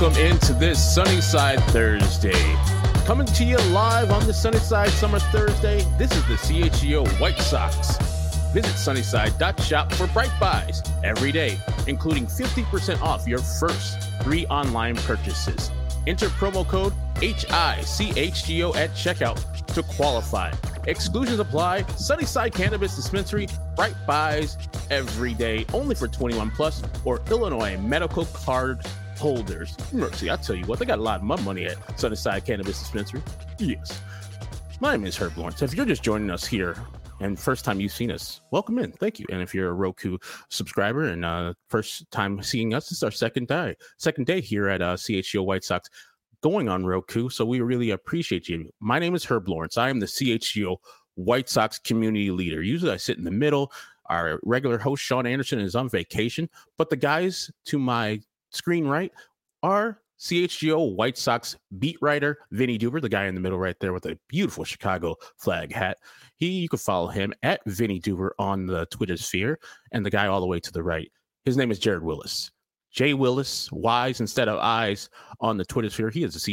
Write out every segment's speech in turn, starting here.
welcome into this Sunnyside Thursday. Coming to you live on the Sunnyside Summer Thursday, this is the CHGO White Sox. Visit sunnyside.shop for bright buys every day, including 50% off your first 3 online purchases. Enter promo code HICHGO at checkout to qualify. Exclusions apply. Sunnyside Cannabis Dispensary, bright buys every day, only for 21 plus or Illinois medical card holders. Mercy, I tell you what, they got a lot of money at Sunnyside Cannabis Dispensary. Yes. My name is Herb Lawrence. If you're just joining us here and first time you've seen us, welcome in. Thank you. And if you're a Roku subscriber and first time seeing us, this is our second day here at CHGO White Sox going on Roku. So we really appreciate you. My name is Herb Lawrence. I am the CHGO White Sox community leader. Usually I sit in the middle. Our regular host, Sean Anderson, is on vacation, but the guys to my screen right are CHGO White Sox beat writer Vinny Duber, the guy in the middle right there with a beautiful Chicago flag hat. You can follow him at Vinny Duber on the Twitter sphere, and the guy all the way to the right, his name is Jared Willis. Jay Willis, Y's instead of I's on the Twitter sphere. He is a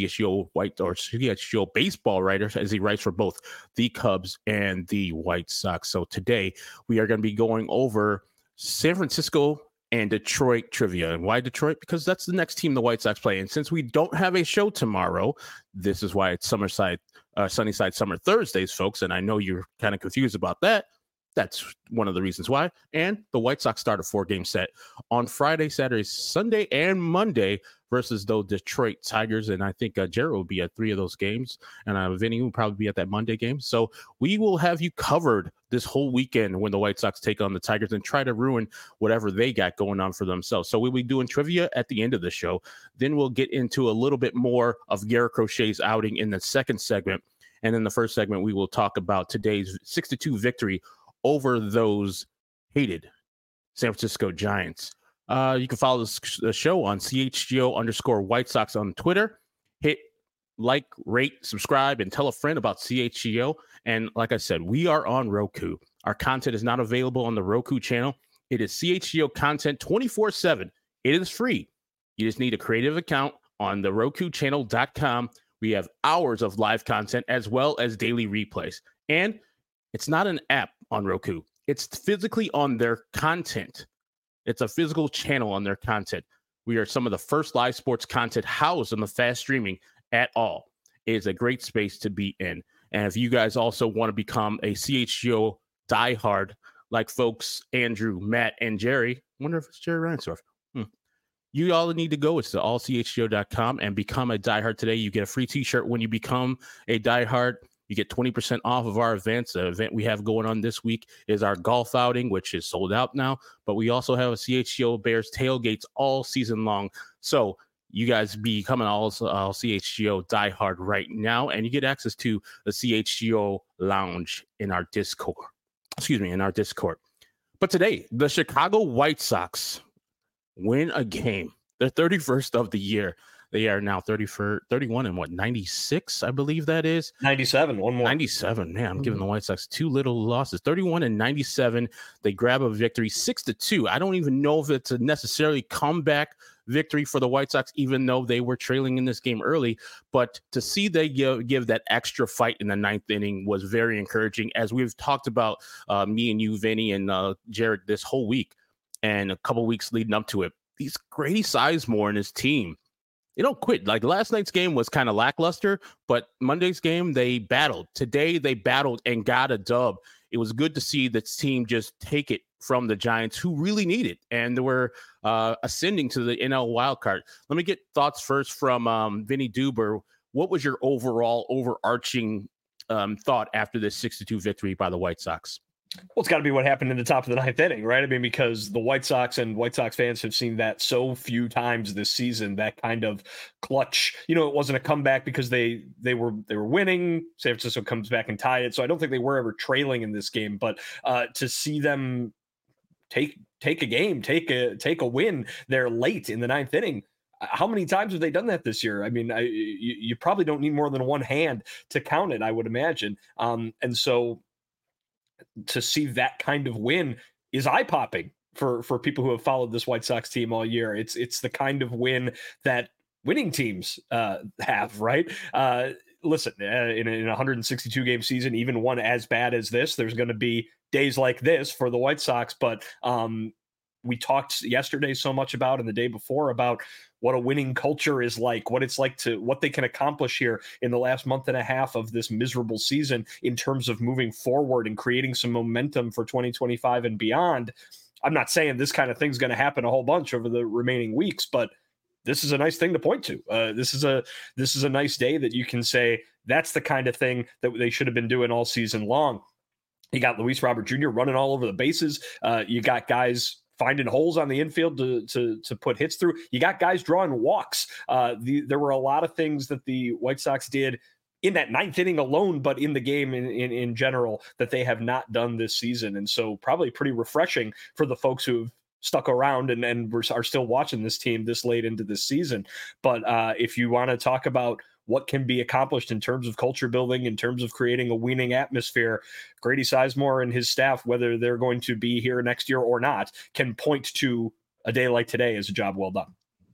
CHGO baseball writer, as he writes for both the Cubs and the White Sox. So today we are going to be going over San Francisco and Detroit trivia. And why Detroit? Because that's the next team the White Sox play. And since we don't have a show tomorrow, this is why it's Sunnyside Summer Thursdays, folks. And I know you're kind of confused about that. That's one of the reasons why. And the White Sox start a 4-game set on Friday, Saturday, Sunday, and Monday versus those Detroit Tigers. And I think Jared will be at 3 of those games. And Vinny will probably be at that Monday game. So we will have you covered this whole weekend when the White Sox take on the Tigers and try to ruin whatever they got going on for themselves. So we'll be doing trivia at the end of the show. Then we'll get into a little bit more of Garrett Crochet's outing in the second segment. And in the first segment, we will talk about today's 6-2 victory over those hated San Francisco Giants. You can follow the show on CHGO_White Sox on Twitter. Hit like, rate, subscribe, and tell a friend about CHGO. And like I said, we are on Roku. Our content is not available on the Roku channel. It is CHGO content 24/7. It is free. You just need a creative account on the RokuChannel.com. We have hours of live content as well as daily replays. And it's not an app on Roku. It's physically on their content. It's a physical channel on their content. We are some of the first live sports content housed on the fast streaming at all. It is a great space to be in. And if you guys also want to become a CHGO diehard, like folks Andrew, Matt, and Jerry, I wonder if it's Jerry Reinsdorf. You all need to go. It's to allchgo.com and become a diehard today. You get a free t-shirt when you become a diehard. You get 20% off of our events. The event we have going on this week is our golf outing, which is sold out now. But we also have a CHGO Bears tailgates all season long. So you guys becoming all CHGO diehard right now, and you get access to the CHGO lounge in our Discord. But today, the Chicago White Sox win a game. They're 31st of the year. They are now 31 and 96, I believe that is. 97, one more. 97, man, I'm giving the White Sox 2 little losses. 31 and 97, they grab a victory, 6-2. I don't even know if it's a necessarily comeback victory for the White Sox, even though they were trailing in this game early. But to see they give that extra fight in the 9th inning was very encouraging, as we've talked about, me and you, Vinny, and Jared, this whole week and a couple weeks leading up to it. These Grady Sizemore and his team, they don't quit. Like last night's game was kind of lackluster, but Monday's game, they battled. Today, they battled and got a dub. It was good to see this team just take it from the Giants, who really need it, and they were ascending to the NL wildcard. Let me get thoughts first from Vinny Duber. What was your overall overarching thought after this 6-2 victory by the White Sox? Well, it's got to be what happened in the top of the 9th inning, right? I mean, because the White Sox and White Sox fans have seen that so few times this season, that kind of clutch. You know, it wasn't a comeback because they were winning. San Francisco comes back and tied it. So I don't think they were ever trailing in this game. But to see them take a game, take a win there late in the 9th inning, how many times have they done that this year? I mean, you probably don't need more than one hand to count it, I would imagine. And so to see that kind of win is eye-popping for people who have followed this White Sox team all year. It's the kind of win that winning teams have, right? Listen, in a 162 game season, even one as bad as this, there's going to be days like this for the White Sox. But we talked yesterday so much about, and the day before, about what a winning culture is like, what it's like to what they can accomplish here in the last month and a half of this miserable season in terms of moving forward and creating some momentum for 2025 and beyond. I'm not saying this kind of thing's going to happen a whole bunch over the remaining weeks, but this is a nice thing to point to. This is a nice day that you can say that's the kind of thing that they should have been doing all season long. You got Luis Robert Jr. running all over the bases. You got guys finding holes on the infield to put hits through. You got guys drawing walks. There were a lot of things that the White Sox did in that ninth inning alone, but in the game in general, that they have not done this season. And so probably pretty refreshing for the folks who've stuck around and are still watching this team this late into this season. But if you want to talk about what can be accomplished in terms of culture building, in terms of creating a winning atmosphere, Grady Sizemore and his staff, whether they're going to be here next year or not, can point to a day like today as a job well done.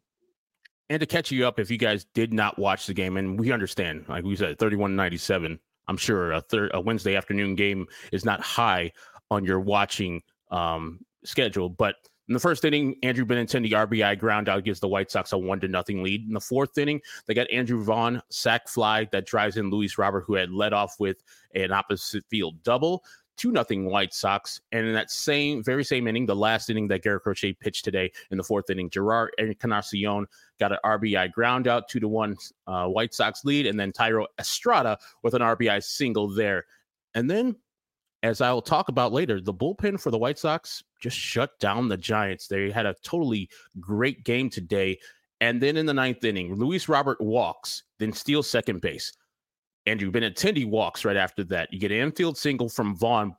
And to catch you up, if you guys did not watch the game, and we understand, like we said, 31-97, I'm sure a Wednesday afternoon game is not high on your watching schedule, but in the first inning, Andrew Benintendi RBI ground out gives the White Sox a 1-0 lead. In the fourth inning, they got Andrew Vaughn sac fly that drives in Luis Robert, who had led off with an opposite field double. 2-0 White Sox. And in that very same inning, the last inning that Garrett Crochet pitched today in the fourth inning, Gerard Encarnacion got an RBI ground out, 2-1 White Sox lead. And then Thairo Estrada with an RBI single there. And then, as I'll talk about later, the bullpen for the White Sox just shut down the Giants. They had a totally great game today. And then in the ninth inning, Luis Robert walks, then steals second base. Andrew Benintendi walks right after that. You get an infield single from Vaughn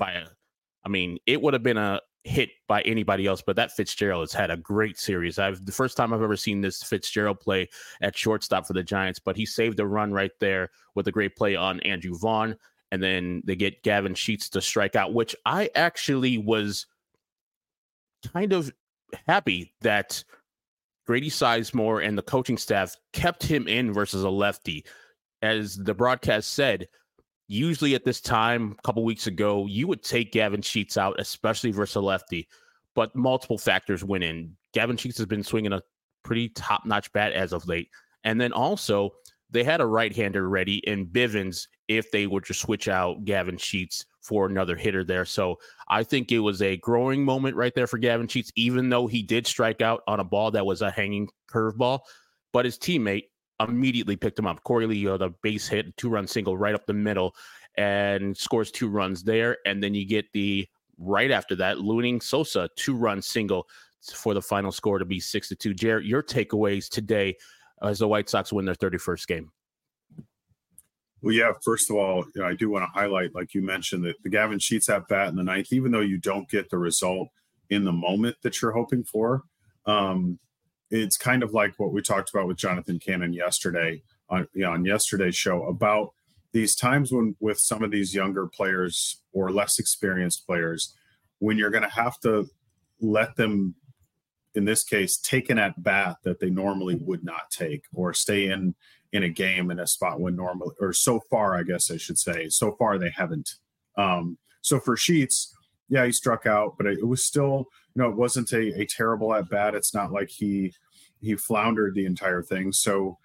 it would have been a hit by anybody else, but that Fitzgerald has had a great series. The first time I've ever seen this Fitzgerald play at shortstop for the Giants, but he saved a run right there with a great play on Andrew Vaughn. And then they get Gavin Sheets to strike out, which I actually was kind of happy that Grady Sizemore and the coaching staff kept him in versus a lefty. As the broadcast said, usually at this time, a couple weeks ago, you would take Gavin Sheets out, especially versus a lefty, but multiple factors went in. Gavin Sheets has been swinging a pretty top-notch bat as of late. And then also, they had a right-hander ready in Bivens if they were to switch out Gavin Sheets for another hitter there. So I think it was a growing moment right there for Gavin Sheets, even though he did strike out on a ball that was a hanging curveball. But his teammate immediately picked him up. Corey Leo, the base hit, 2-run single right up the middle, and scores 2 runs there. And then you get right after that, Luning Sosa, 2-run single for the final score to be 6-2. Jarrett, your takeaways today as the White Sox win their 31st game? Well, yeah, first of all, I do want to highlight, like you mentioned, that the Gavin Sheets at bat in the ninth, even though you don't get the result in the moment that you're hoping for, it's kind of like what we talked about with Jonathan Cannon yesterday on yesterday's show about these times when with some of these younger players or less experienced players, when you're going to have to let them, in this case, take an at bat that they normally would not take, or stay in a game in a spot when normally, or so far, I guess I should say, so far they haven't. So for Sheets, yeah, he struck out, but it was still, it wasn't a terrible at bat. It's not like he floundered the entire thing. So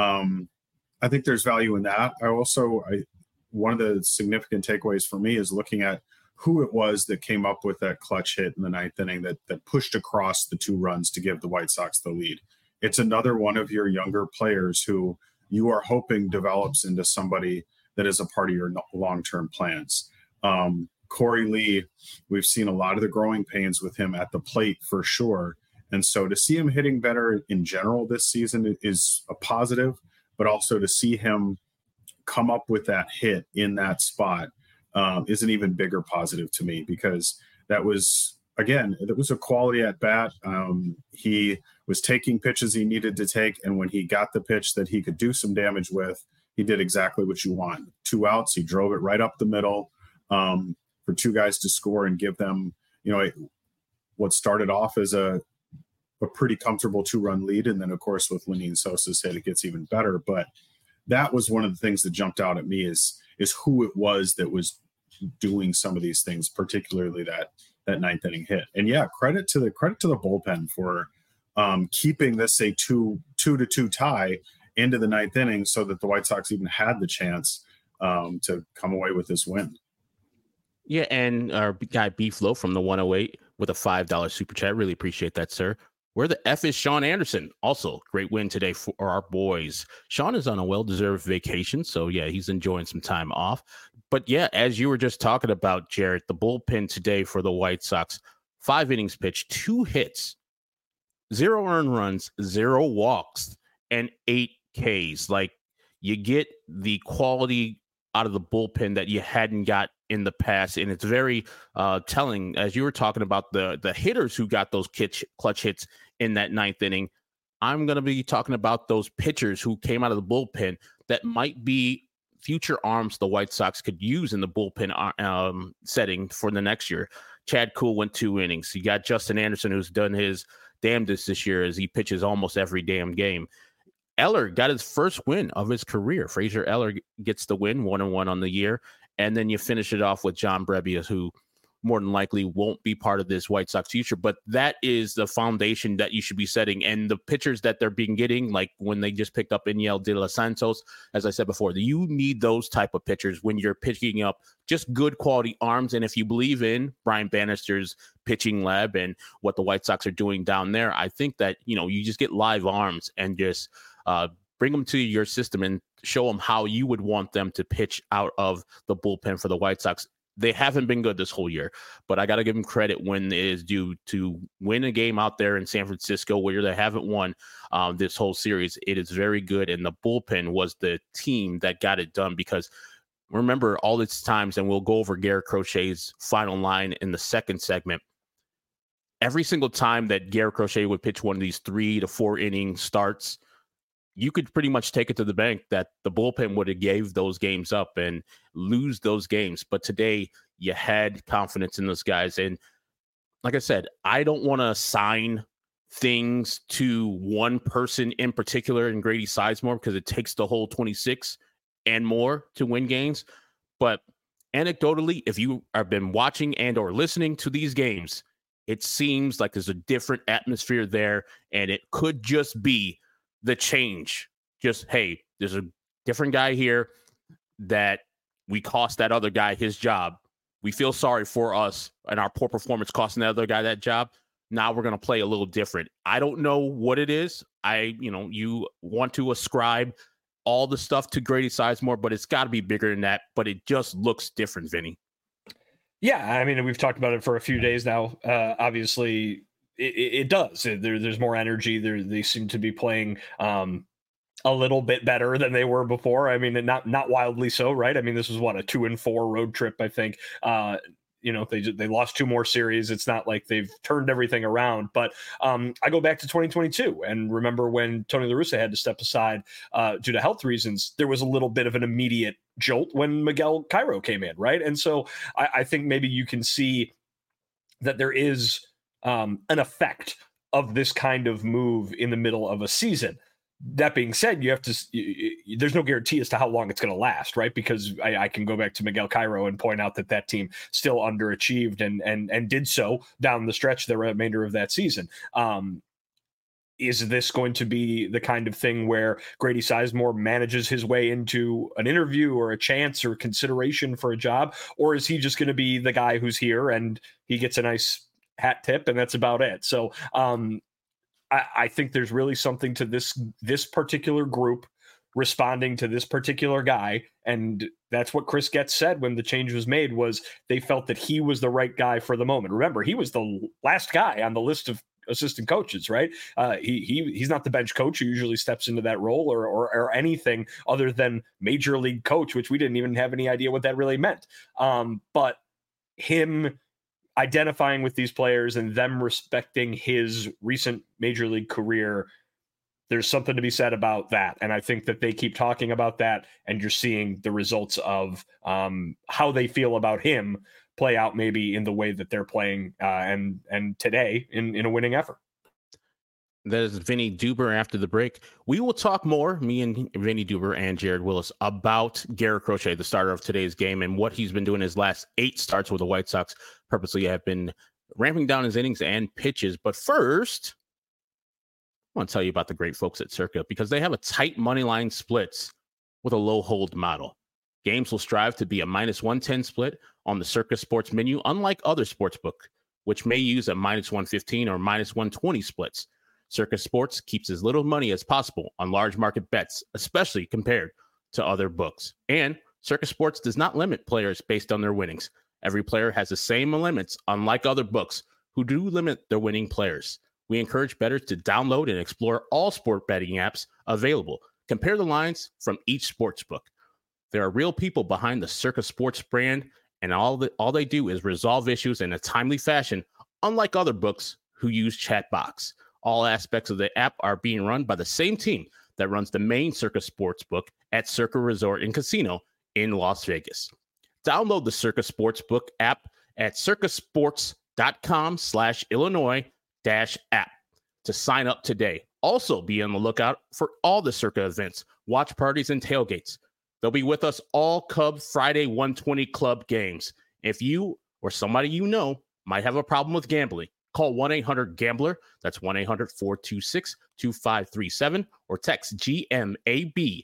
I think there's value in that. One of the significant takeaways for me is looking at who it was that came up with that clutch hit in the ninth inning that pushed across the 2 runs to give the White Sox the lead. It's another one of your younger players who you are hoping develops into somebody that is a part of your long-term plans. Corey Lee, we've seen a lot of the growing pains with him at the plate for sure. And so to see him hitting better in general this season is a positive, but also to see him come up with that hit in that spot is an even bigger positive to me, because that was a quality at bat. He was taking pitches he needed to take, and when he got the pitch that he could do some damage with, he did exactly what you want. 2 outs, he drove it right up the middle for 2 guys to score and give them, what started off as a a pretty comfortable 2-run lead. And then, of course, with Lenyn Sosa's hit, it gets even better. But that was one of the things that jumped out at me is who it was that was doing some of these things, particularly that ninth inning hit. And yeah, credit to the bullpen for keeping this a 2-2 tie into the ninth inning so that the White Sox even had the chance to come away with this win. Yeah, and our guy B-Flow from the 108 with a $5 super chat. Really appreciate that, sir. Where the F is Sean Anderson? Also, great win today for our boys. Sean is on a well-deserved vacation, so yeah, he's enjoying some time off. But yeah, as you were just talking about, Jarrett, the bullpen today for the White Sox, 5 innings pitched, 2 hits, 0 earned runs, 0 walks, and 8 Ks. Like, you get the quality out of the bullpen that you hadn't got in the past, and it's very telling, as you were talking about the hitters who got those clutch hits in that ninth inning. I'm going to be talking about those pitchers who came out of the bullpen that might be future arms the White Sox could use in the bullpen setting for the next year. Chad Kuhl went 2 innings. You got Justin Anderson, who's done his damnedest this year as he pitches almost every damn game. Eller got his first win of his career. Fraser Eller gets the win, 1-1 on the year. And then you finish it off with John Brebbia, who more than likely won't be part of this White Sox future. But that is the foundation that you should be setting. And the pitchers that they're being getting, like when they just picked up Iñel de los Santos, as I said before, you need those type of pitchers when you're picking up just good quality arms. And if you believe in Brian Bannister's pitching lab and what the White Sox are doing down there, I think that, you just get live arms and just bring them to your system and show them how you would want them to pitch out of the bullpen for the White Sox. They haven't been good this whole year, but I got to give them credit when it is due to win a game out there in San Francisco where they haven't won this whole series. It is very good, and the bullpen was the team that got it done because remember all these times, and we'll go over Garrett Crochet's final line in the second segment. Every single time that Garrett Crochet would pitch one of these 3 to 4 inning starts, you could pretty much take it to the bank that the bullpen would have gave those games up and lose those games. But today you had confidence in those guys. And like I said, I don't want to assign things to one person in particular in Grady Sizemore because it takes the whole 26 and more to win games. But anecdotally, if you have been watching and or listening to these games, it seems like there's a different atmosphere there, and it could just be the change. Just, hey, there's a different guy here that we cost that other guy his job. We feel sorry for us and our poor performance costing that other guy that job. Now we're going to play a little different. I don't know what it is. You want to ascribe all the stuff to Grady Sizemore, but it's got to be bigger than that. But it just looks different, Vinny. Yeah, I mean, we've talked about it for a few days now. Obviously, it does. There's more energy. They seem to be playing a little bit better than they were before. I mean, not wildly so, right? I mean, this was a 2-4 road trip, I think. They lost 2 more series. It's not like they've turned everything around. But I go back to 2022 and remember when Tony La Russa had to step aside due to health reasons. There was a little bit of an immediate jolt when Miguel Cairo came in, right? And so I think maybe you can see that there is an effect of this kind of move in the middle of a season. That being said, there's no guarantee as to how long it's going to last, right? Because I can go back to Miguel Cairo and point out that team still underachieved and did so down the stretch the remainder of that season. Is this going to be the kind of thing where Grady Sizemore manages his way into an interview or a chance or consideration for a job? Or is he just going to be the guy who's here and he gets a nice hat tip and that's about it? So I think there's really something to this particular group responding to this particular guy. And that's what Chris Getz said when the change was made, was they felt that he was the right guy for the moment. Remember, he was the last guy on the list of assistant coaches, right? He's not the bench coach who usually steps into that role or anything other than major league coach, which we didn't even have any idea what that really meant. But him identifying with these players and them respecting his recent major league career, there's something to be said about that. And I think that they keep talking about that, and you're seeing the results of how they feel about him play out maybe in the way that they're playing and today in a winning effort. That is Vinny Duber after the break. We will talk more, me and Vinny Duber and Jared Willis, about Garrett Crochet, the starter of today's game, and what he's been doing his last 8 starts with the White Sox. Purposely have been ramping down his innings and pitches. But first, I want to tell you about the great folks at Circa, because they have a tight money line splits with a low hold model. Games will strive to be a -110 split on the Circa Sports menu, unlike other sportsbook, which may use a -115 or -120 splits. Circa Sports keeps as little money as possible on large market bets, especially compared to other books. And Circa Sports does not limit players based on their winnings. Every player has the same limits, unlike other books who do limit their winning players. We encourage bettors to download and explore all sport betting apps available. Compare the lines from each sports book. There are real people behind the Circa Sports brand, and all they do is resolve issues in a timely fashion, unlike other books who use Chatbox. All aspects of the app are being run by the same team that runs the main Circa Sports book at Circa Resort and Casino in Las Vegas. Download the Circa Sportsbook app at circasports.com/Illinois-app to sign up today. Also be on the lookout for all the Circa events, watch parties, and tailgates. They'll be with us all Cub Friday 120 Club games. If you or somebody you know might have a problem with gambling, call 1-800-GAMBLER. That's 1-800-426-2537, or text GAMB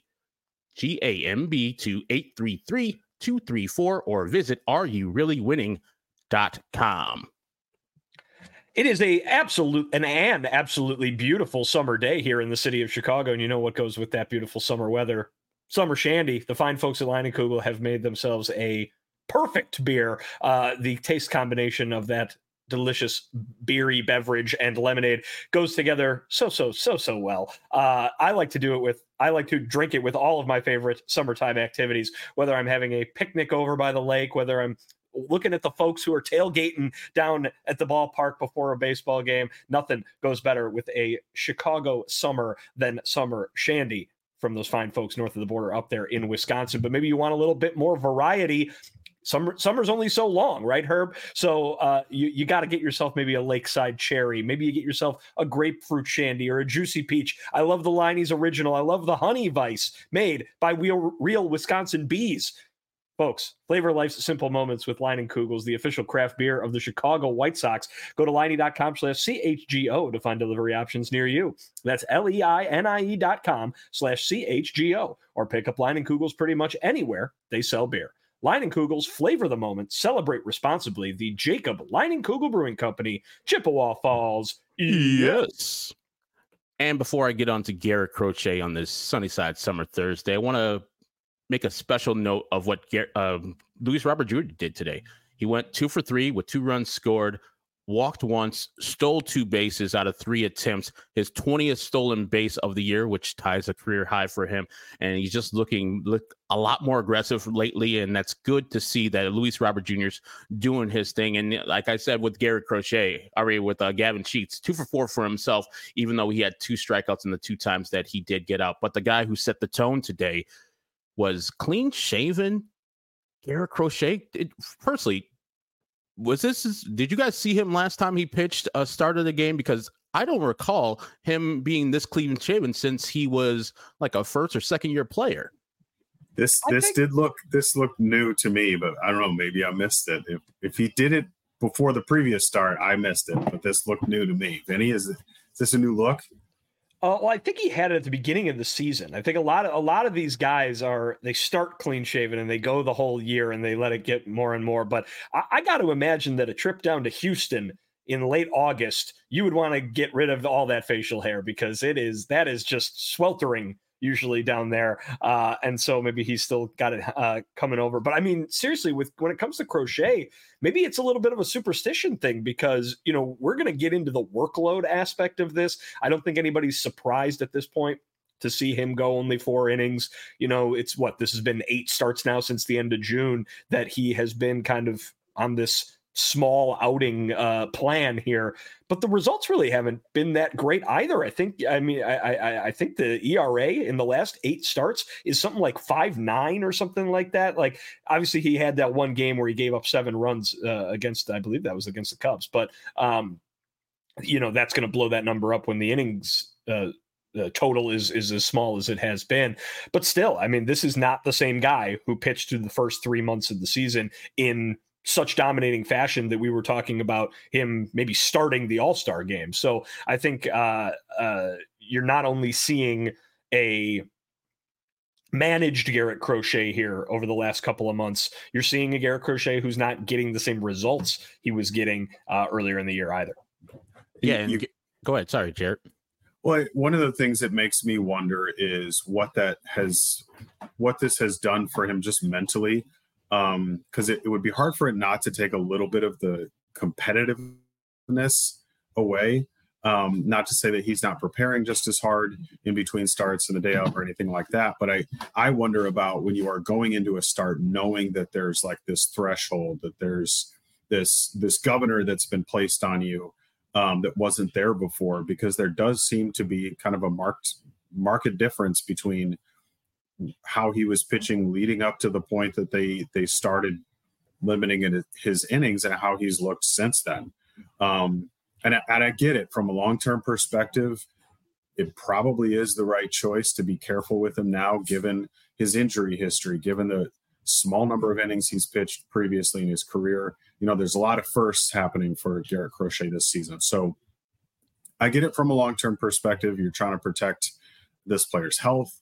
to 833-234, or visit areyoureallywinning.com. It is an absolutely beautiful summer day here in the city of Chicago, and you know what goes with that beautiful summer weather? Summer Shandy. The fine folks at Leinenkugel have made themselves a perfect beer. The taste combination of that delicious beery beverage and lemonade goes together so well. I like to drink it with all of my favorite summertime activities, whether I'm having a picnic over by the lake, whether I'm looking at the folks who are tailgating down at the ballpark before a baseball game. Nothing goes better with a Chicago summer than Summer Shandy from those fine folks north of the border up there in Wisconsin. But maybe you want a little bit more variety. Summer's only so long, right, Herb? So you got to get yourself maybe a lakeside cherry. Maybe you get yourself a grapefruit shandy or a juicy peach. I love the Leinie's original. I love the honey vice made by real Wisconsin bees. Folks, flavor life's simple moments with Leinenkugels, the official craft beer of the Chicago White Sox. Go to Leinie.com/CHGO to find delivery options near you. That's LEINIE.com/CHGO, or pick up Leinenkugels pretty much anywhere they sell beer. Leinenkugels, flavor the moment, celebrate responsibly. The Jacob Leinenkugel Brewing Company, Chippewa Falls. Yes. And before I get on to Garrett Crochet on this Sunnyside Summer Thursday, I want to make a special note of what Luis Robert Jr. did today. He went 2 for 3 with 2 runs scored, walked once, stole 2 bases out of 3 attempts, his 20th stolen base of the year, which ties a career high for him. And he's just looking a lot more aggressive lately, and that's good to see that Luis Robert Jr.'s doing his thing. And like I said with Garrett Crochet, with Gavin Sheets, 2 for 4 for himself, even though he had 2 strikeouts in the 2 times that he did get out. But the guy who set the tone today was clean-shaven Garrett Crochet. Personally, did you guys see him last time he pitched a start of the game? Because I don't recall him being this clean-shaven since he was like a first or second year player. This looked new to me, but I don't know, maybe I missed it. If he did it before the previous start, I missed it, but this looked new to me. Vinny, is this a new look? Well, I think he had it at the beginning of the season. I think a lot of these guys they start clean shaven and they go the whole year and they let it get more and more. But I got to imagine that a trip down to Houston in late August, you would want to get rid of all that facial hair, because that is just sweltering usually down there. And so maybe he's still got it coming over. But I mean, seriously, when it comes to Crochet, maybe it's a little bit of a superstition thing, because, we're going to get into the workload aspect of this. I don't think anybody's surprised at this point to see him go only 4 innings. This has been 8 starts now since the end of June that he has been kind of on this small outing plan here, but the results really haven't been that great either. I think the ERA in the last 8 starts is something like 5.9 or something like that. Like, obviously he had that one game where he gave up 7 runs against, I believe that was against the Cubs, but that's going to blow that number up when the innings total is as small as it has been. But still, I mean, this is not the same guy who pitched through the first 3 months of the season in such dominating fashion that we were talking about him maybe starting the All-Star game. So I think you're not only seeing a managed Garrett Crochet here over the last couple of months, you're seeing a Garrett Crochet who's not getting the same results he was getting earlier in the year either. Yeah, and go ahead. Sorry, Jarrett. Well, one of the things that makes me wonder is what this has done for him just mentally, because it would be hard for it not to take a little bit of the competitiveness away. Not to say that he's not preparing just as hard in between starts and the day of or anything like that, but I wonder about when you are going into a start knowing that there's like this threshold, that there's this governor that's been placed on you that wasn't there before, because there does seem to be kind of a marked difference between how he was pitching leading up to the point that they started limiting his innings and how he's looked since then. And I get it from a long-term perspective. It probably is the right choice to be careful with him now, given his injury history, given the small number of innings he's pitched previously in his career. There's a lot of firsts happening for Garrett Crochet this season. So I get it from a long-term perspective. You're trying to protect this player's health.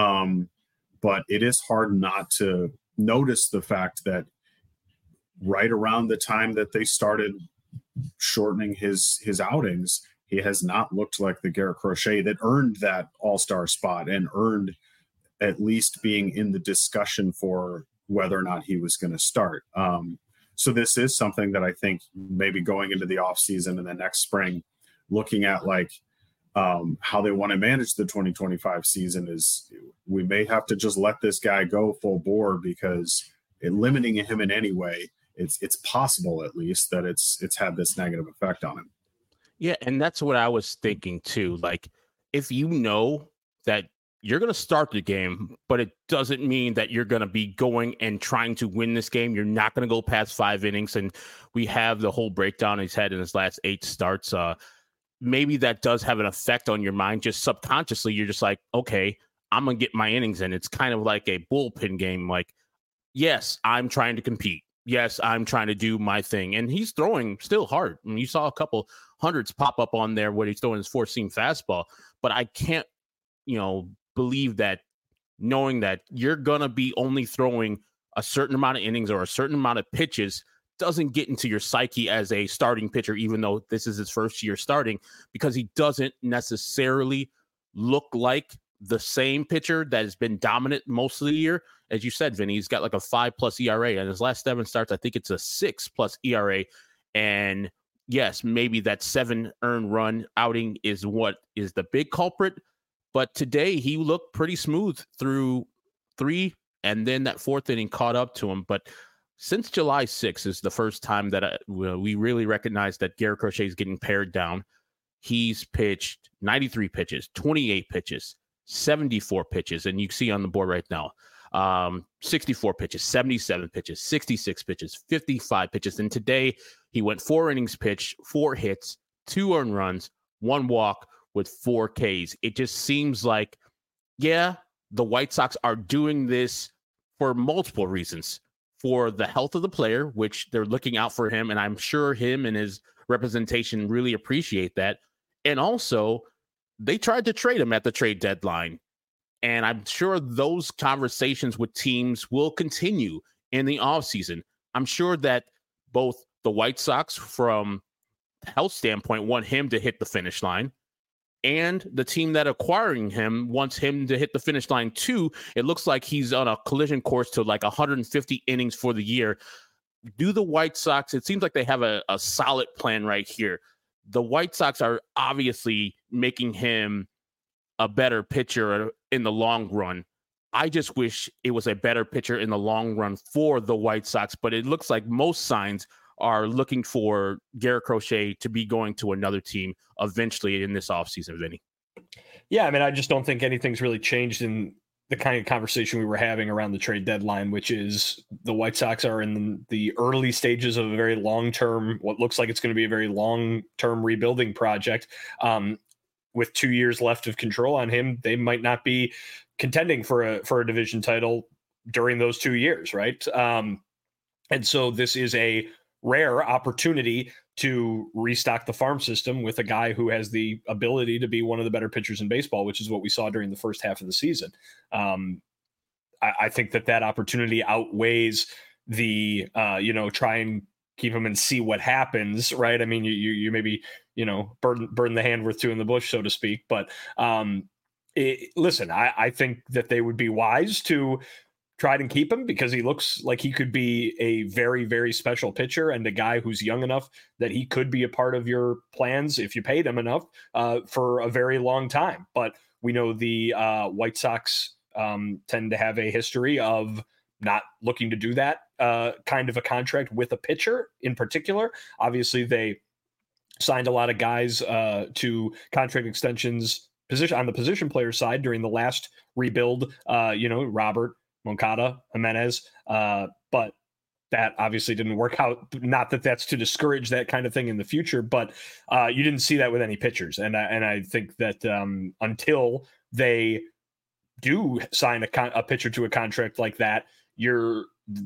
But it is hard not to notice the fact that right around the time that they started shortening his outings, he has not looked like the Garrett Crochet that earned that all-star spot and earned at least being in the discussion for whether or not he was going to start. So this is something that I think maybe going into the offseason and the next spring, looking at how they want to manage the 2025 season, is we may have to just let this guy go full bore, because limiting him in any way, it's possible at least that it's had this negative effect on him. Yeah, and that's what I was thinking too. Like, if you know that you're going to start the game, but it doesn't mean that you're going to be going and trying to win this game. You're not going to go past 5 innings, and we have the whole breakdown he's had in his last 8 starts. Maybe that does have an effect on your mind. Just subconsciously, you're just like, okay, I'm going to get my innings in. It's kind of like a bullpen game. Like, yes, I'm trying to compete. Yes, I'm trying to do my thing. And he's throwing still hard. I mean, you saw a couple hundreds pop up on there when he's throwing his 4-seam fastball. But I can't, believe that, knowing that you're going to be only throwing a certain amount of innings or a certain amount of pitches doesn't get into your psyche as a starting pitcher, even though this is his first year starting, because he doesn't necessarily look like the same pitcher that has been dominant most of the year. As you said, Vinny, he's got like a 5+ ERA, and his last 7 starts, I think it's a 6+ ERA. And yes, maybe that 7 earned run outing is what is the big culprit. But today he looked pretty smooth through 3, and then that 4th inning caught up to him. But since July 6th is the first time that we really recognize that Garrett Crochet is getting pared down. He's pitched 93 pitches, 28 pitches, 74 pitches, and you see on the board right now, 64 pitches, 77 pitches, 66 pitches, 55 pitches. And today he went 4 innings pitched, 4 hits, 2 earned runs, 1 walk, with 4 Ks. It just seems like, yeah, the White Sox are doing this for multiple reasons. For the health of the player, which they're looking out for him, and I'm sure him and his representation really appreciate that. And also, they tried to trade him at the trade deadline. And I'm sure those conversations with teams will continue in the offseason. I'm sure that both the White Sox, from the health standpoint, want him to hit the finish line, and the team that acquiring him wants him to hit the finish line too. It looks like he's on a collision course to like 150 innings for the year. Do the White Sox, it seems like they have a solid plan right here. The White Sox are obviously making him a better pitcher in the long run. I just wish it was a better pitcher in the long run for the White Sox, but it looks like most signs are looking for Garrett Crochet to be going to another team eventually in this offseason, Vinny. Yeah, I mean, I just don't think anything's really changed in the kind of conversation we were having around the trade deadline, which is the White Sox are in the early stages of a very long-term, what looks like it's going to be a very long-term rebuilding project. With 2 years left of control on him, they might not be contending for a division title during those 2 years, right? And so this is a rare opportunity to restock the farm system with a guy who has the ability to be one of the better pitchers in baseball, which is what we saw during the first half of the season. I think that opportunity outweighs the, try and keep him and see what happens, right? I mean, you maybe, burn the hand worth two in the bush, so to speak. But listen, I think that they would be wise to try and keep him because he looks like he could be a very, very special pitcher and a guy who's young enough that he could be a part of your plans if you paid him enough for a very long time. But we know the White Sox tend to have a history of not looking to do that kind of a contract with a pitcher in particular. Obviously, they signed a lot of guys to contract extensions on the position player side during the last rebuild, Robert, Moncada, Jimenez, but that obviously didn't work out. Not that that's to discourage that kind of thing in the future, but you didn't see that with any pitchers. And I think that until they do sign a pitcher to a contract like that, you're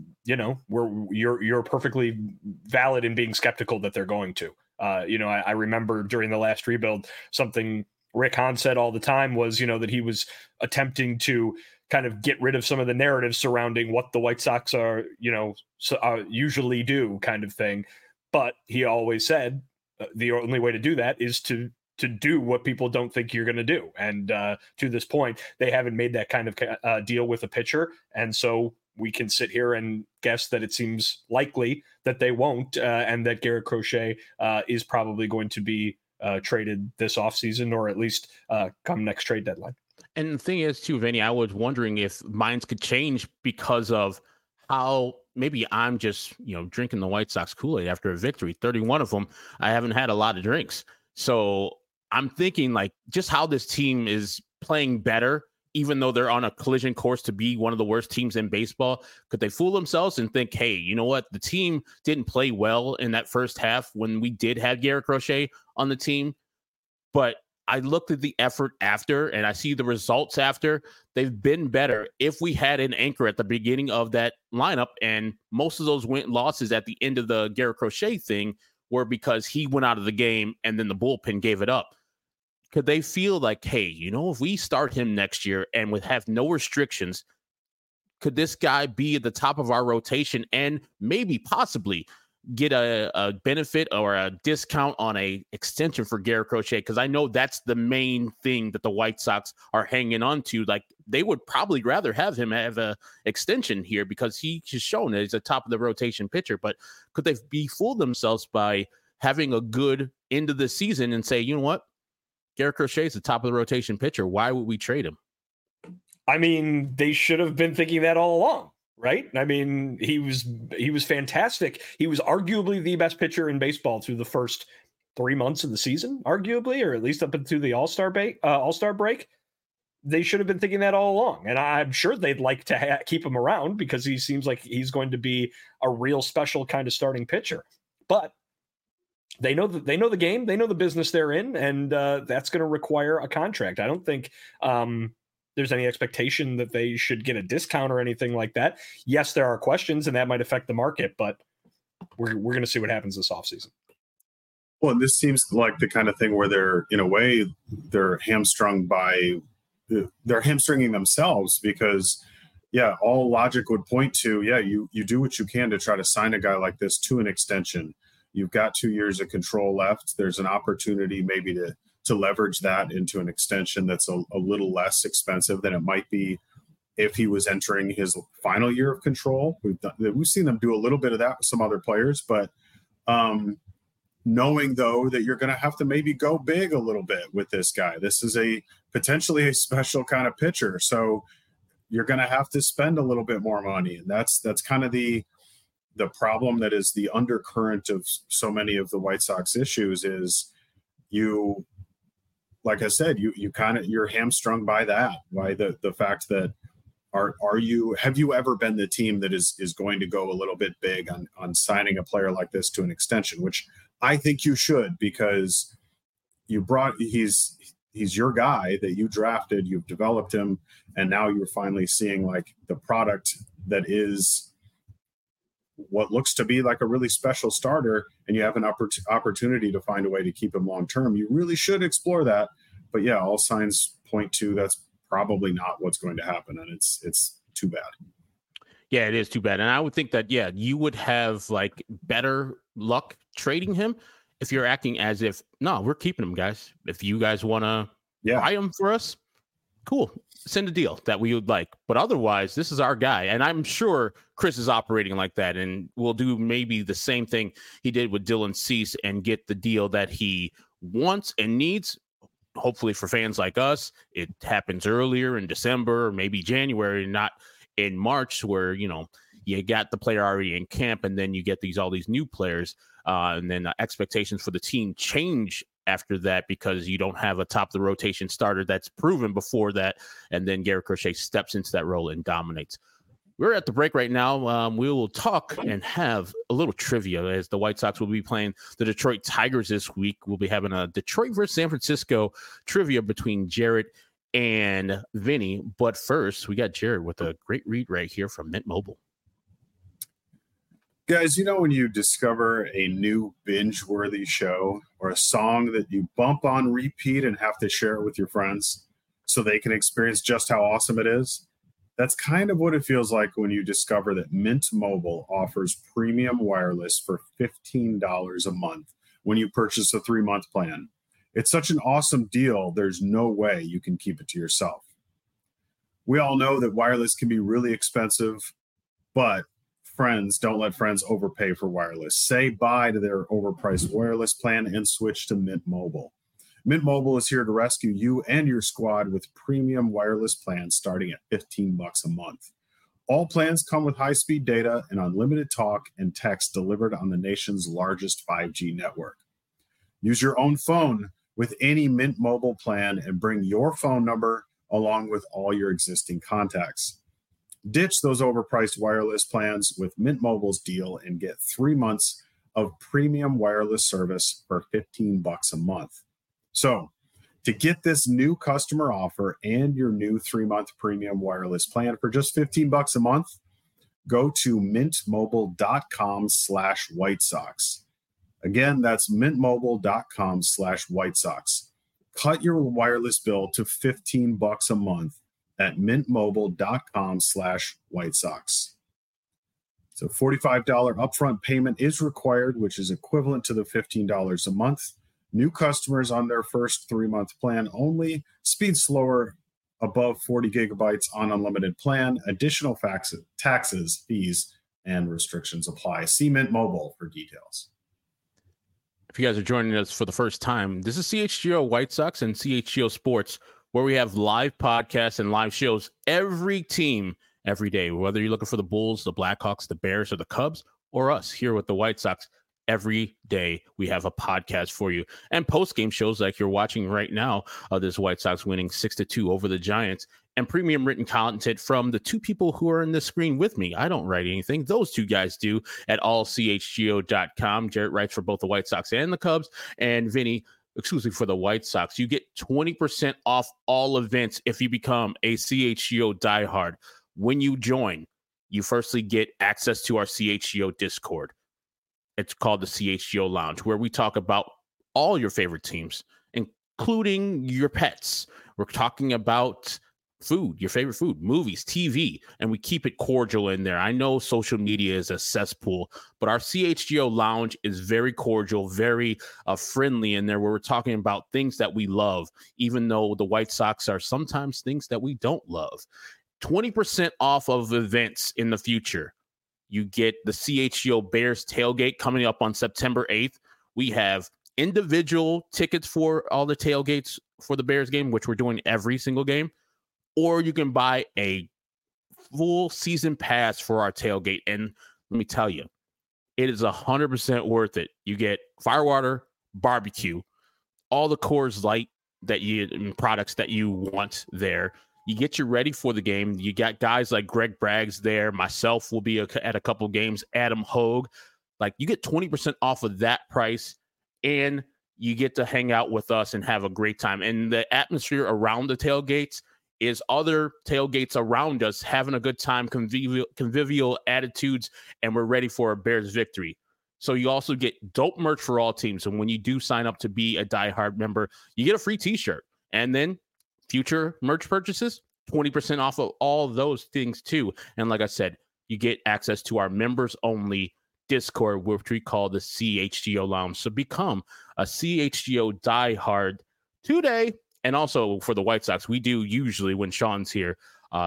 perfectly valid in being skeptical that they're going to. I remember during the last rebuild, something Rick Hahn said all the time was, that he was attempting to kind of get rid of some of the narratives surrounding what the White Sox are, usually do kind of thing. But he always said the only way to do that is to do what people don't think you're going to do. And to this point, they haven't made that kind of deal with a pitcher. And so we can sit here and guess that it seems likely that they won't, and that Garrett Crochet is probably going to be traded this offseason, or at least come next trade deadline. And the thing is, too, Vinny, I was wondering if minds could change because of how maybe I'm just, drinking the White Sox Kool-Aid after a victory. 31 of them, I haven't had a lot of drinks. So I'm thinking like just how this team is playing better, even though they're on a collision course to be one of the worst teams in baseball. Could they fool themselves and think, hey, you know what? The team didn't play well in that first half when we did have Garrett Crochet on the team. But I looked at the effort after and I see the results after. They've been better if we had an anchor at the beginning of that lineup. And most of those losses at the end of the Garrett Crochet thing were because he went out of the game and then the bullpen gave it up. Could they feel like, hey, if we start him next year and would have no restrictions, could this guy be at the top of our rotation and maybe possibly get a benefit or a discount on a extension for Garrett Crochet? Because I know that's the main thing that the White Sox are hanging on to. Like, they would probably rather have him have a extension here because he has shown that he's a top of the rotation pitcher. But could they be fooled themselves by having a good end of the season and say, you know what, Garrett Crochet is the top of the rotation pitcher. Why would we trade him? I mean, they should have been thinking that all along, right? I mean, he was fantastic. He was arguably the best pitcher in baseball through the first 3 months of the season, arguably, or at least up into the All-Star break. They should have been thinking that all along. And I'm sure they'd like to keep him around because he seems like he's going to be a real special kind of starting pitcher. But they know the game, they know the business they're in, and that's going to require a contract. I don't think there's any expectation that they should get a discount or anything like that. Yes, there are questions, and that might affect the market, but we're going to see what happens this offseason. Well, and this seems like the kind of thing where they're, in a way, they're hamstringing themselves because, yeah, all logic would point to, yeah, you do what you can to try to sign a guy like this to an extension. You've got 2 years of control left. There's an opportunity maybe to leverage that into an extension that's a little less expensive than it might be if he was entering his final year of control. We've seen them do a little bit of that with some other players, but knowing, though, that you're going to have to maybe go big a little bit with this guy. This is potentially a special kind of pitcher, so you're going to have to spend a little bit more money, and that's kind of the problem that is the undercurrent of so many of the White Sox issues is like I said, you're hamstrung by that, by the fact that Have you ever been the team that is going to go a little bit big on signing a player like this to an extension, which I think you should, because he's your guy that you drafted, you've developed him, and now you're finally seeing like the product that is what looks to be like a really special starter, and you have an opportunity to find a way to keep him long term. You really should explore that. But yeah, all signs point to that's probably not what's going to happen, and it's too bad. Yeah, it is too bad. And I would think that, yeah, you would have like better luck trading him if you're acting as if, no, we're keeping him, guys. If you guys want to buy him for us, cool, send a deal that we would like. But otherwise, this is our guy. And I'm sure Chris is operating like that, and will do maybe the same thing he did with Dylan Cease and get the deal that he wants and needs. Hopefully for fans like us, it happens earlier in December or maybe January, not in March, where, you know, you got the player already in camp and then you get all these new players. And then expectations for the team change after that because you don't have a top of the rotation starter that's proven before that. And then Garrett Crochet steps into that role and dominates. We're at the break right now. We will talk and have a little trivia as the White Sox will be playing the Detroit Tigers this week. We'll be having a Detroit versus San Francisco trivia between Jarrett and Vinny. But first, we got Jarrett with a great read right here from Mint Mobile. Guys, you know when you discover a new binge-worthy show or a song that you bump on repeat and have to share it with your friends so they can experience just how awesome it is? That's kind of what it feels like when you discover that Mint Mobile offers premium wireless for $15 a month when you purchase a 3-month plan. It's such an awesome deal, there's no way you can keep it to yourself. We all know that wireless can be really expensive, but friends, don't let friends overpay for wireless. Say bye to their overpriced wireless plan and switch to Mint Mobile. Mint Mobile is here to rescue you and your squad with premium wireless plans starting at $15 a month. All plans come with high-speed data and unlimited talk and text delivered on the nation's largest 5G network. Use your own phone with any Mint Mobile plan and bring your phone number along with all your existing contacts. Ditch those overpriced wireless plans with Mint Mobile's deal and get 3 months of premium wireless service for $15 a month. So, to get this new customer offer and your new 3-month premium wireless plan for just $15 a month, go to mintmobile.com/White Sox. Again, that's mintmobile.com/White Sox. Cut your wireless bill to $15 a month at mintmobile.com/White Sox. So $45 upfront payment is required, which is equivalent to the $15 a month. New customers on their first 3-month plan only. Speed slower above 40 gigabytes on unlimited plan. Additional taxes, fees, and restrictions apply. See Mint Mobile for details. If you guys are joining us for the first time, this is CHGO White Sox and CHGO Sports, where we have live podcasts and live shows every team every day, whether you're looking for the Bulls, the Blackhawks, the Bears, or the Cubs, or us here with the White Sox. Every day we have a podcast for you, and post-game shows like you're watching right now. This White Sox winning 6-2 over the Giants, and premium written content from the two people who are in the screen with me. I don't write anything. Those two guys do at allchgo.com. Jarrett writes for both the White Sox and the Cubs, and Vinny exclusively for the White Sox. You get 20% off all events if you become a CHGO diehard. When you join, you firstly get access to our CHGO Discord. It's called the CHGO Lounge, where we talk about all your favorite teams, including your pets. We're talking about food, your favorite food, movies, TV, and we keep it cordial in there. I know social media is a cesspool, but our CHGO Lounge is very cordial, very friendly in there, where we're talking about things that we love, even though the White Sox are sometimes things that we don't love. 20% off of events in the future. You get the CHGO Bears tailgate coming up on September 8th. We have individual tickets for all the tailgates for the Bears game, which we're doing every single game. Or you can buy a full season pass for our tailgate. And let me tell you, it is 100% worth it. You get firewater, barbecue, all the Coors Light products that you want there. You get you ready for the game. You got guys like Greg Braggs there. Myself will be at a couple games. Adam Hogue. Like, you get 20% off of that price, and you get to hang out with us and have a great time. And the atmosphere around the tailgates is other tailgates around us having a good time, convivial attitudes, and we're ready for a Bears victory. So you also get dope merch for all teams. And when you do sign up to be a diehard member, you get a free t-shirt. And then future merch purchases, 20% off of all those things too. And like I said, you get access to our members only Discord, which we call the CHGO Lounge. So become a CHGO diehard today. And also for the White Sox, we do usually, when Sean's here,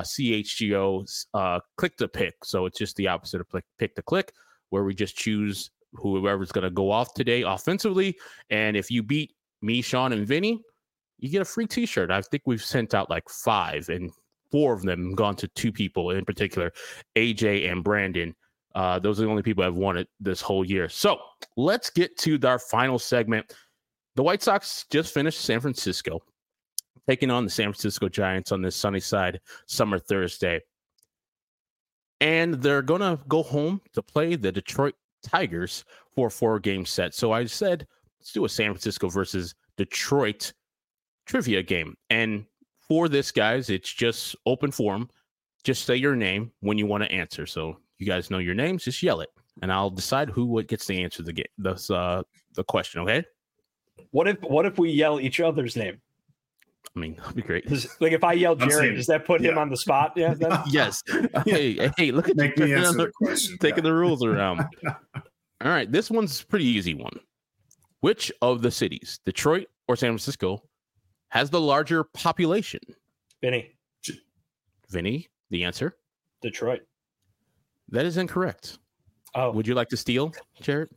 CHGO click to pick. So it's just the opposite of pick to click, where we just choose whoever's going to go off today offensively. And if you beat me, Sean, and Vinny, you get a free t-shirt. I think we've sent out like 5, and 4 of them gone to 2 people in particular, AJ and Brandon. Those are the only people I've won it this whole year. So let's get to our final segment. The White Sox just finished San Francisco, taking on the San Francisco Giants on this Sunnyside Summer Thursday. And they're going to go home to play the Detroit Tigers for a 4-game set. So I said, let's do a San Francisco versus Detroit trivia game. And for this, guys, it's just open forum. Just say your name when you want to answer. So you guys know your names, just yell it, and I'll decide who gets to answer the question, okay? What if we yell each other's name? I mean, that'd be great. Like if I yell Jared, does that put him on the spot? Yeah. Then? Yes. Hey, look at Make me answer the question. Taking the rules around. All right, this one's a pretty easy one. Which of the cities, Detroit or San Francisco, has the larger population? Vinny, the answer? Detroit. That is incorrect. Oh, would you like to steal, Jared?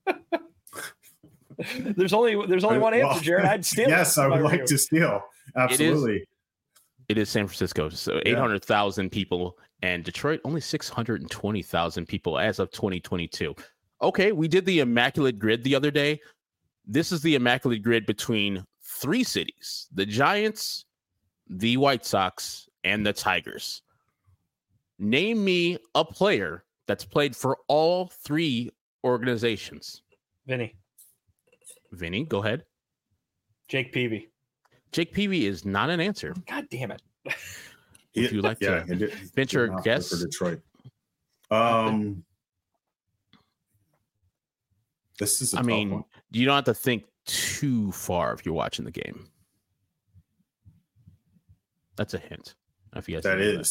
There's only one answer, Jared. I'd steal. Yes, I would like to steal. Absolutely. It is San Francisco. So 800,000 people, and Detroit only 620,000 people as of 2022. Okay, we did the Immaculate Grid the other day. This is the Immaculate Grid between 3 cities: the Giants, the White Sox, and the Tigers. Name me a player that's played for all 3 organizations. Vinny, go ahead. Jake Peavy. Jake Peavy is not an answer. God damn it. Would you like to venture a guess? For Detroit. This is a tough one. You don't have to think too far if you're watching the game. That's a hint. If you guys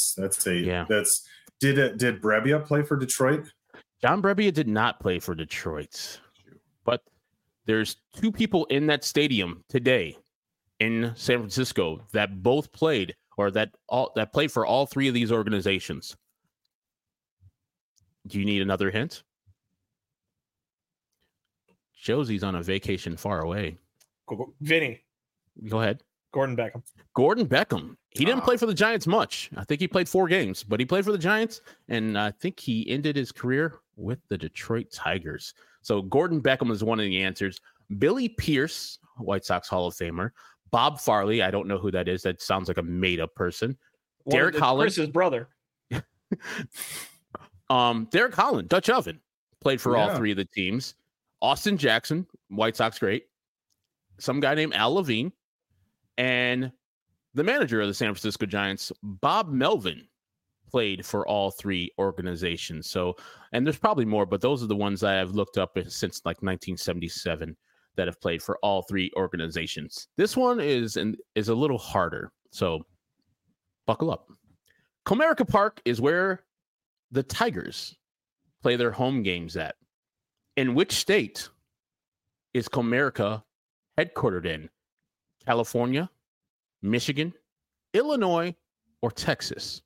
did Brebbia play for Detroit? John Brebbia did not play for Detroit, but there's 2 people in that stadium today in San Francisco that both played, or that played for all 3 of these organizations. Do you need another hint? Josie's on a vacation far away. Vinny, go ahead. Gordon Beckham. He didn't play for the Giants much. I think he played 4 games, but he played for the Giants, and I think he ended his career with the Detroit Tigers. So Gordon Beckham is one of the answers. Billy Pierce, White Sox Hall of Famer. Bob Farley, I don't know who that is. That sounds like a made-up person. Derek Holland. Chris's brother. Derek Holland, Dutch Oven, played for all 3 of the teams. Austin Jackson, White Sox great. Some guy named Al Levine. And the manager of the San Francisco Giants, Bob Melvin, played for all 3 organizations. So, and there's probably more, but those are the ones I have looked up since like 1977 that have played for all 3 organizations. This one is a little harder, so buckle up. Comerica Park is where the Tigers play their home games at. In which state is Comerica headquartered in? California, Michigan, Illinois, or Texas?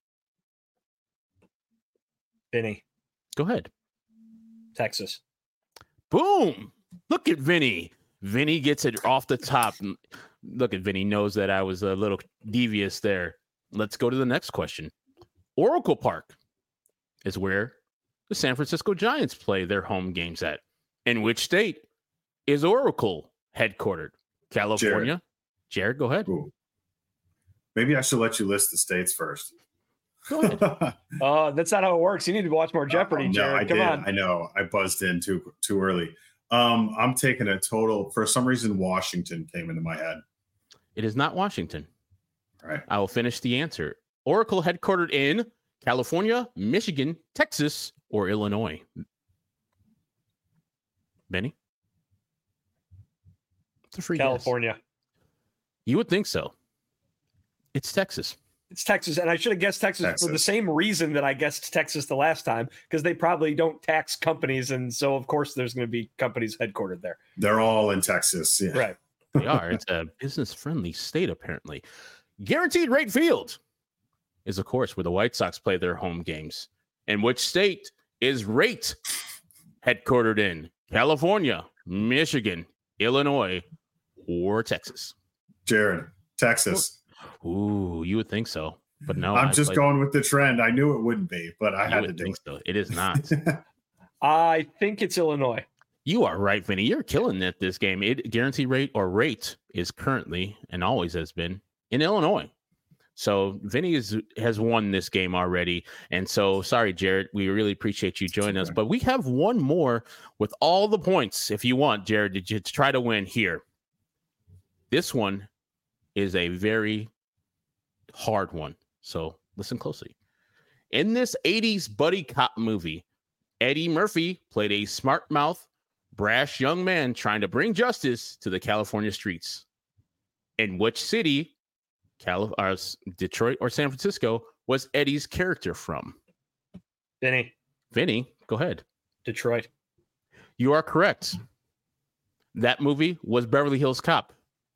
Vinny. Go ahead. Texas. Boom. Look at Vinny. Vinny gets it off the top. Look at Vinny, knows that I was a little devious there. Let's go to the next question. Oracle Park is where the San Francisco Giants play their home games at. In which state is Oracle headquartered? California. Jared, go ahead. Ooh. Maybe I should let you list the states first. Go ahead. That's not how it works. You need to watch more Jeopardy, Jared. Come on. I know. I buzzed in too early. I'm taking a total. For some reason, Washington came into my head. It is not Washington. All right. I will finish the answer. Oracle headquartered in California, Michigan, Texas, or Illinois. Benny? It's a free California. Guess. You would think so. It's Texas. It's Texas, and I should have guessed Texas for the same reason that I guessed Texas the last time, because they probably don't tax companies, and so of course there's going to be companies headquartered there. They're all in Texas, yeah. Right? They are. It's a business-friendly state, apparently. Guaranteed Rate Field is, of course, where the White Sox play their home games. And which state is Rate headquartered in? California, Michigan, Illinois, or Texas? Jared, Texas. Ooh, you would think so, but no. I'm just going with the trend. I knew it wouldn't be, but I had to do it. So. It is not. I think it's Illinois. You are right, Vinny. You're killing it this game. Guarantee rate is currently and always has been in Illinois. So Vinny has won this game already. And so sorry, Jared. We really appreciate you joining us. But we have one more with all the points. If you want, Jared, to try to win here. This one is a very hard one. So listen closely. In this 80s buddy cop movie, Eddie Murphy played a smart-mouth, brash young man trying to bring justice to the California streets. In which city, Detroit or San Francisco, was Eddie's character from? Vinny, go ahead. Detroit. You are correct. That movie was Beverly Hills Cop.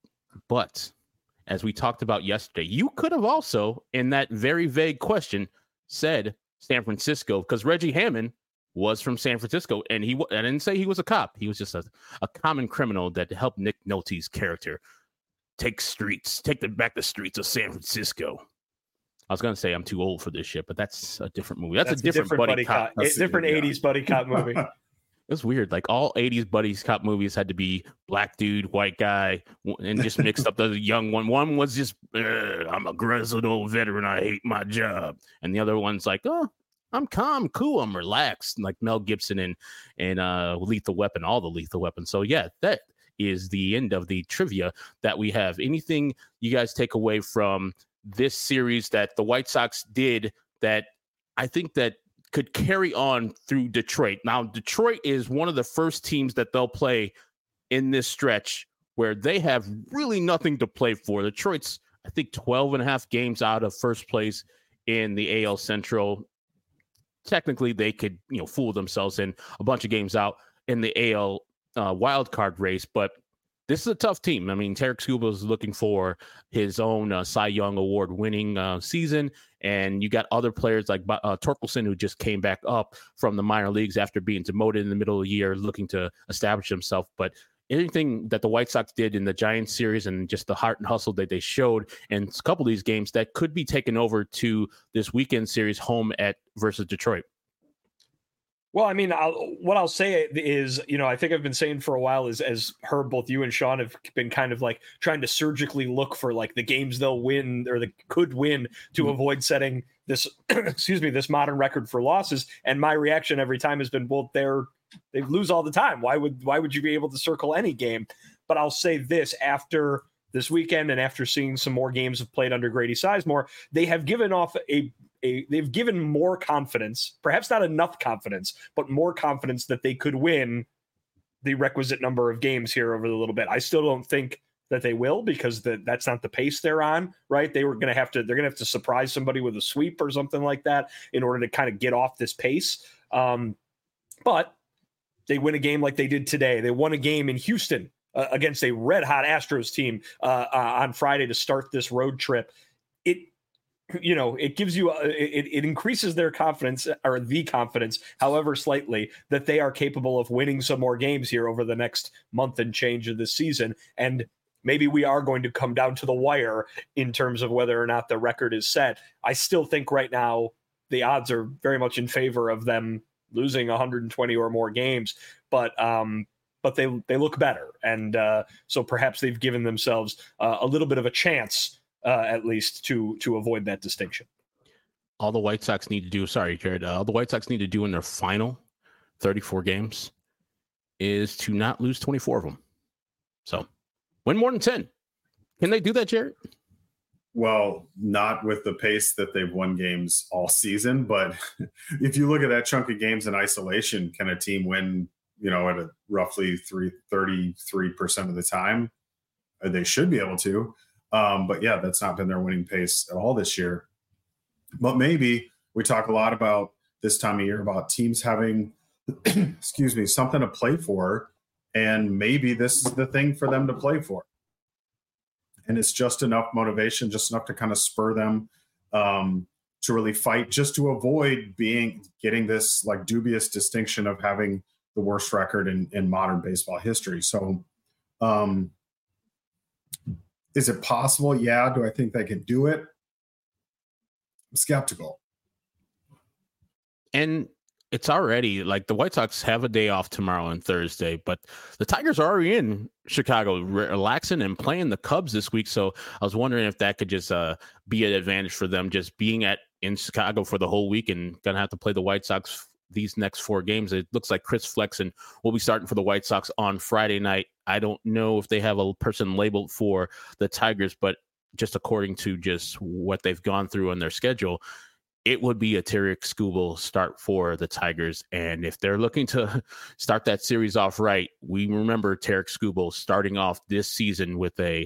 But as we talked about yesterday, you could have also, in that very vague question, said San Francisco, because Reggie Hammond was from San Francisco, and I didn't say he was a cop. He was just a common criminal that helped Nick Nolte's character take back the streets of San Francisco. I was going to say I'm too old for this shit, but that's a different movie. That's a different buddy cop. Different 80s buddy cop movie. It was weird. Like all 80s buddies cop movies had to be black dude, white guy, and just mixed up the young one. One was just, I'm a grizzled old veteran. I hate my job. And the other one's like, oh, I'm calm, cool, I'm relaxed. Like Mel Gibson and Lethal Weapon, all the Lethal Weapons. So yeah, that is the end of the trivia that we have. Anything you guys take away from this series that the White Sox did that I think that could carry on through Detroit? Now, Detroit is one of the first teams that they'll play in this stretch where they have really nothing to play for. Detroit's, I think, 12 and a half games out of first place in the AL Central. Technically, they could, fool themselves in a bunch of games out in the AL wild card race, but this is a tough team. I mean, Tarek Skubal is looking for his own Cy Young Award winning season. And you got other players like Torkelson, who just came back up from the minor leagues after being demoted in the middle of the year, looking to establish himself. But anything that the White Sox did in the Giants series and just the heart and hustle that they showed in a couple of these games that could be taken over to this weekend series home versus Detroit. Well, I mean, what I'll say is, I think I've been saying for a while is, as Herb, both you and Sean have been kind of like trying to surgically look for like the games they'll win or they could win to avoid setting this, this modern record for losses. And my reaction every time has been, well, they lose all the time. Why would you be able to circle any game? But I'll say this: after this weekend and after seeing some more games have played under Grady Sizemore, they have given off they've given more confidence, perhaps not enough confidence, but more confidence that they could win the requisite number of games here over a little bit. I still don't think that they will, because that's not the pace they're on, right? They're going to have to surprise somebody with a sweep or something like that in order to kind of get off this pace. But they win a game like they did today. They won a game in Houston against a red hot Astros team on Friday to start this road trip. It gives you, it increases their confidence, or the confidence, however slightly, that they are capable of winning some more games here over the next month and change of this season. And maybe we are going to come down to the wire in terms of whether or not the record is set. I still think right now the odds are very much in favor of them losing 120 or more games, but they look better. And so perhaps they've given themselves a little bit of a chance at least to avoid that distinction. All the White Sox need to do, sorry, Jared, all the White Sox need to do in their final 34 games is to not lose 24 of them. So win more than 10. Can they do that, Jared? Well, not with the pace that they've won games all season, but if you look at that chunk of games in isolation, can a team win, at a roughly 33% of the time? They should be able to. But yeah, that's not been their winning pace at all this year. But maybe we talk a lot about this time of year about teams having, something to play for. And maybe this is the thing for them to play for. And it's just enough motivation, just enough to kind of spur them to really fight, just to avoid getting this like dubious distinction of having the worst record in modern baseball history. So is it possible? Yeah. Do I think they can do it? I'm skeptical. And it's already like the White Sox have a day off tomorrow and Thursday, but the Tigers are already in Chicago relaxing and playing the Cubs this week. So I was wondering if that could just be an advantage for them, just being in Chicago for the whole week and going to have to play the White Sox these next 4 games. It looks like Chris Flexen will be starting for the White Sox on Friday night. I don't know if they have a person labeled for the Tigers, but just according to just what they've gone through on their schedule, it would be a Tarik Skubal start for the Tigers. And if they're looking to start that series off right, we remember Tarik Skubal starting off this season with a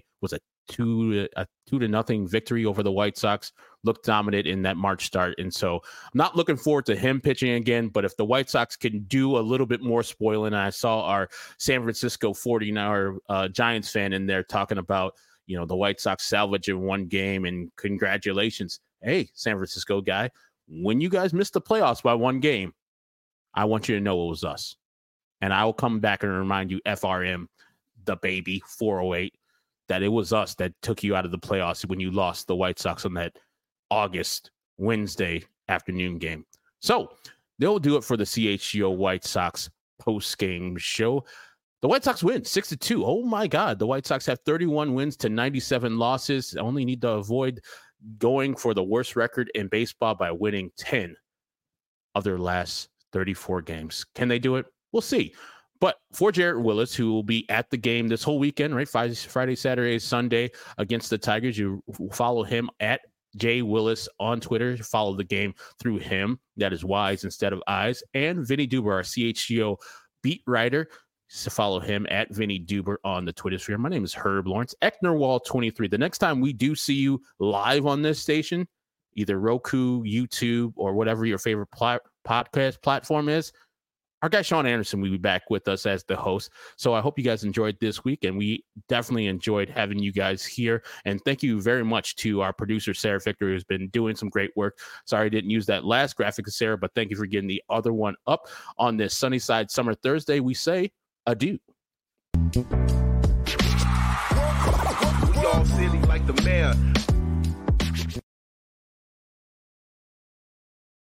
2-0 victory over the White Sox, looked dominant in that March start. And so I'm not looking forward to him pitching again, but if the White Sox can do a little bit more spoiling, I saw our San Francisco 49er Giants fan in there talking about, the White Sox salvage in 1 game and congratulations. Hey, San Francisco guy, when you guys missed the playoffs by 1 game, I want you to know it was us. And I will come back and remind you, FRM, the baby, 408, that it was us that took you out of the playoffs when you lost the White Sox on that August Wednesday afternoon game. So they'll do it for the CHGO White Sox post-game show. The White Sox win 6-2. Oh my God. The White Sox have 31 wins to 97 losses. Only need to avoid going for the worst record in baseball by winning 10 of their last 34 games. Can they do it? We'll see. But for Jarrett Willis, who will be at the game this whole weekend, right? Friday, Saturday, Sunday against the Tigers, you follow him at Jay Willis on Twitter. Follow the game through him. That is Y's instead of I's. And Vinny Duber, our CHGO beat writer. To follow him at Vinny Duber on the Twitter sphere. My name is Herb Lawrence, Ecknerwall23. The next time we do see you live on this station, either Roku, YouTube, or whatever your favorite podcast platform is, our guy Sean Anderson will be back with us as the host. So I hope you guys enjoyed this week, and we definitely enjoyed having you guys here. And thank you very much to our producer, Sarah Victor, who's been doing some great work. Sorry I didn't use that last graphic of Sarah, but thank you for getting the other one up on this Sunnyside Summer Thursday. We say adieu. We all silly like the mayor.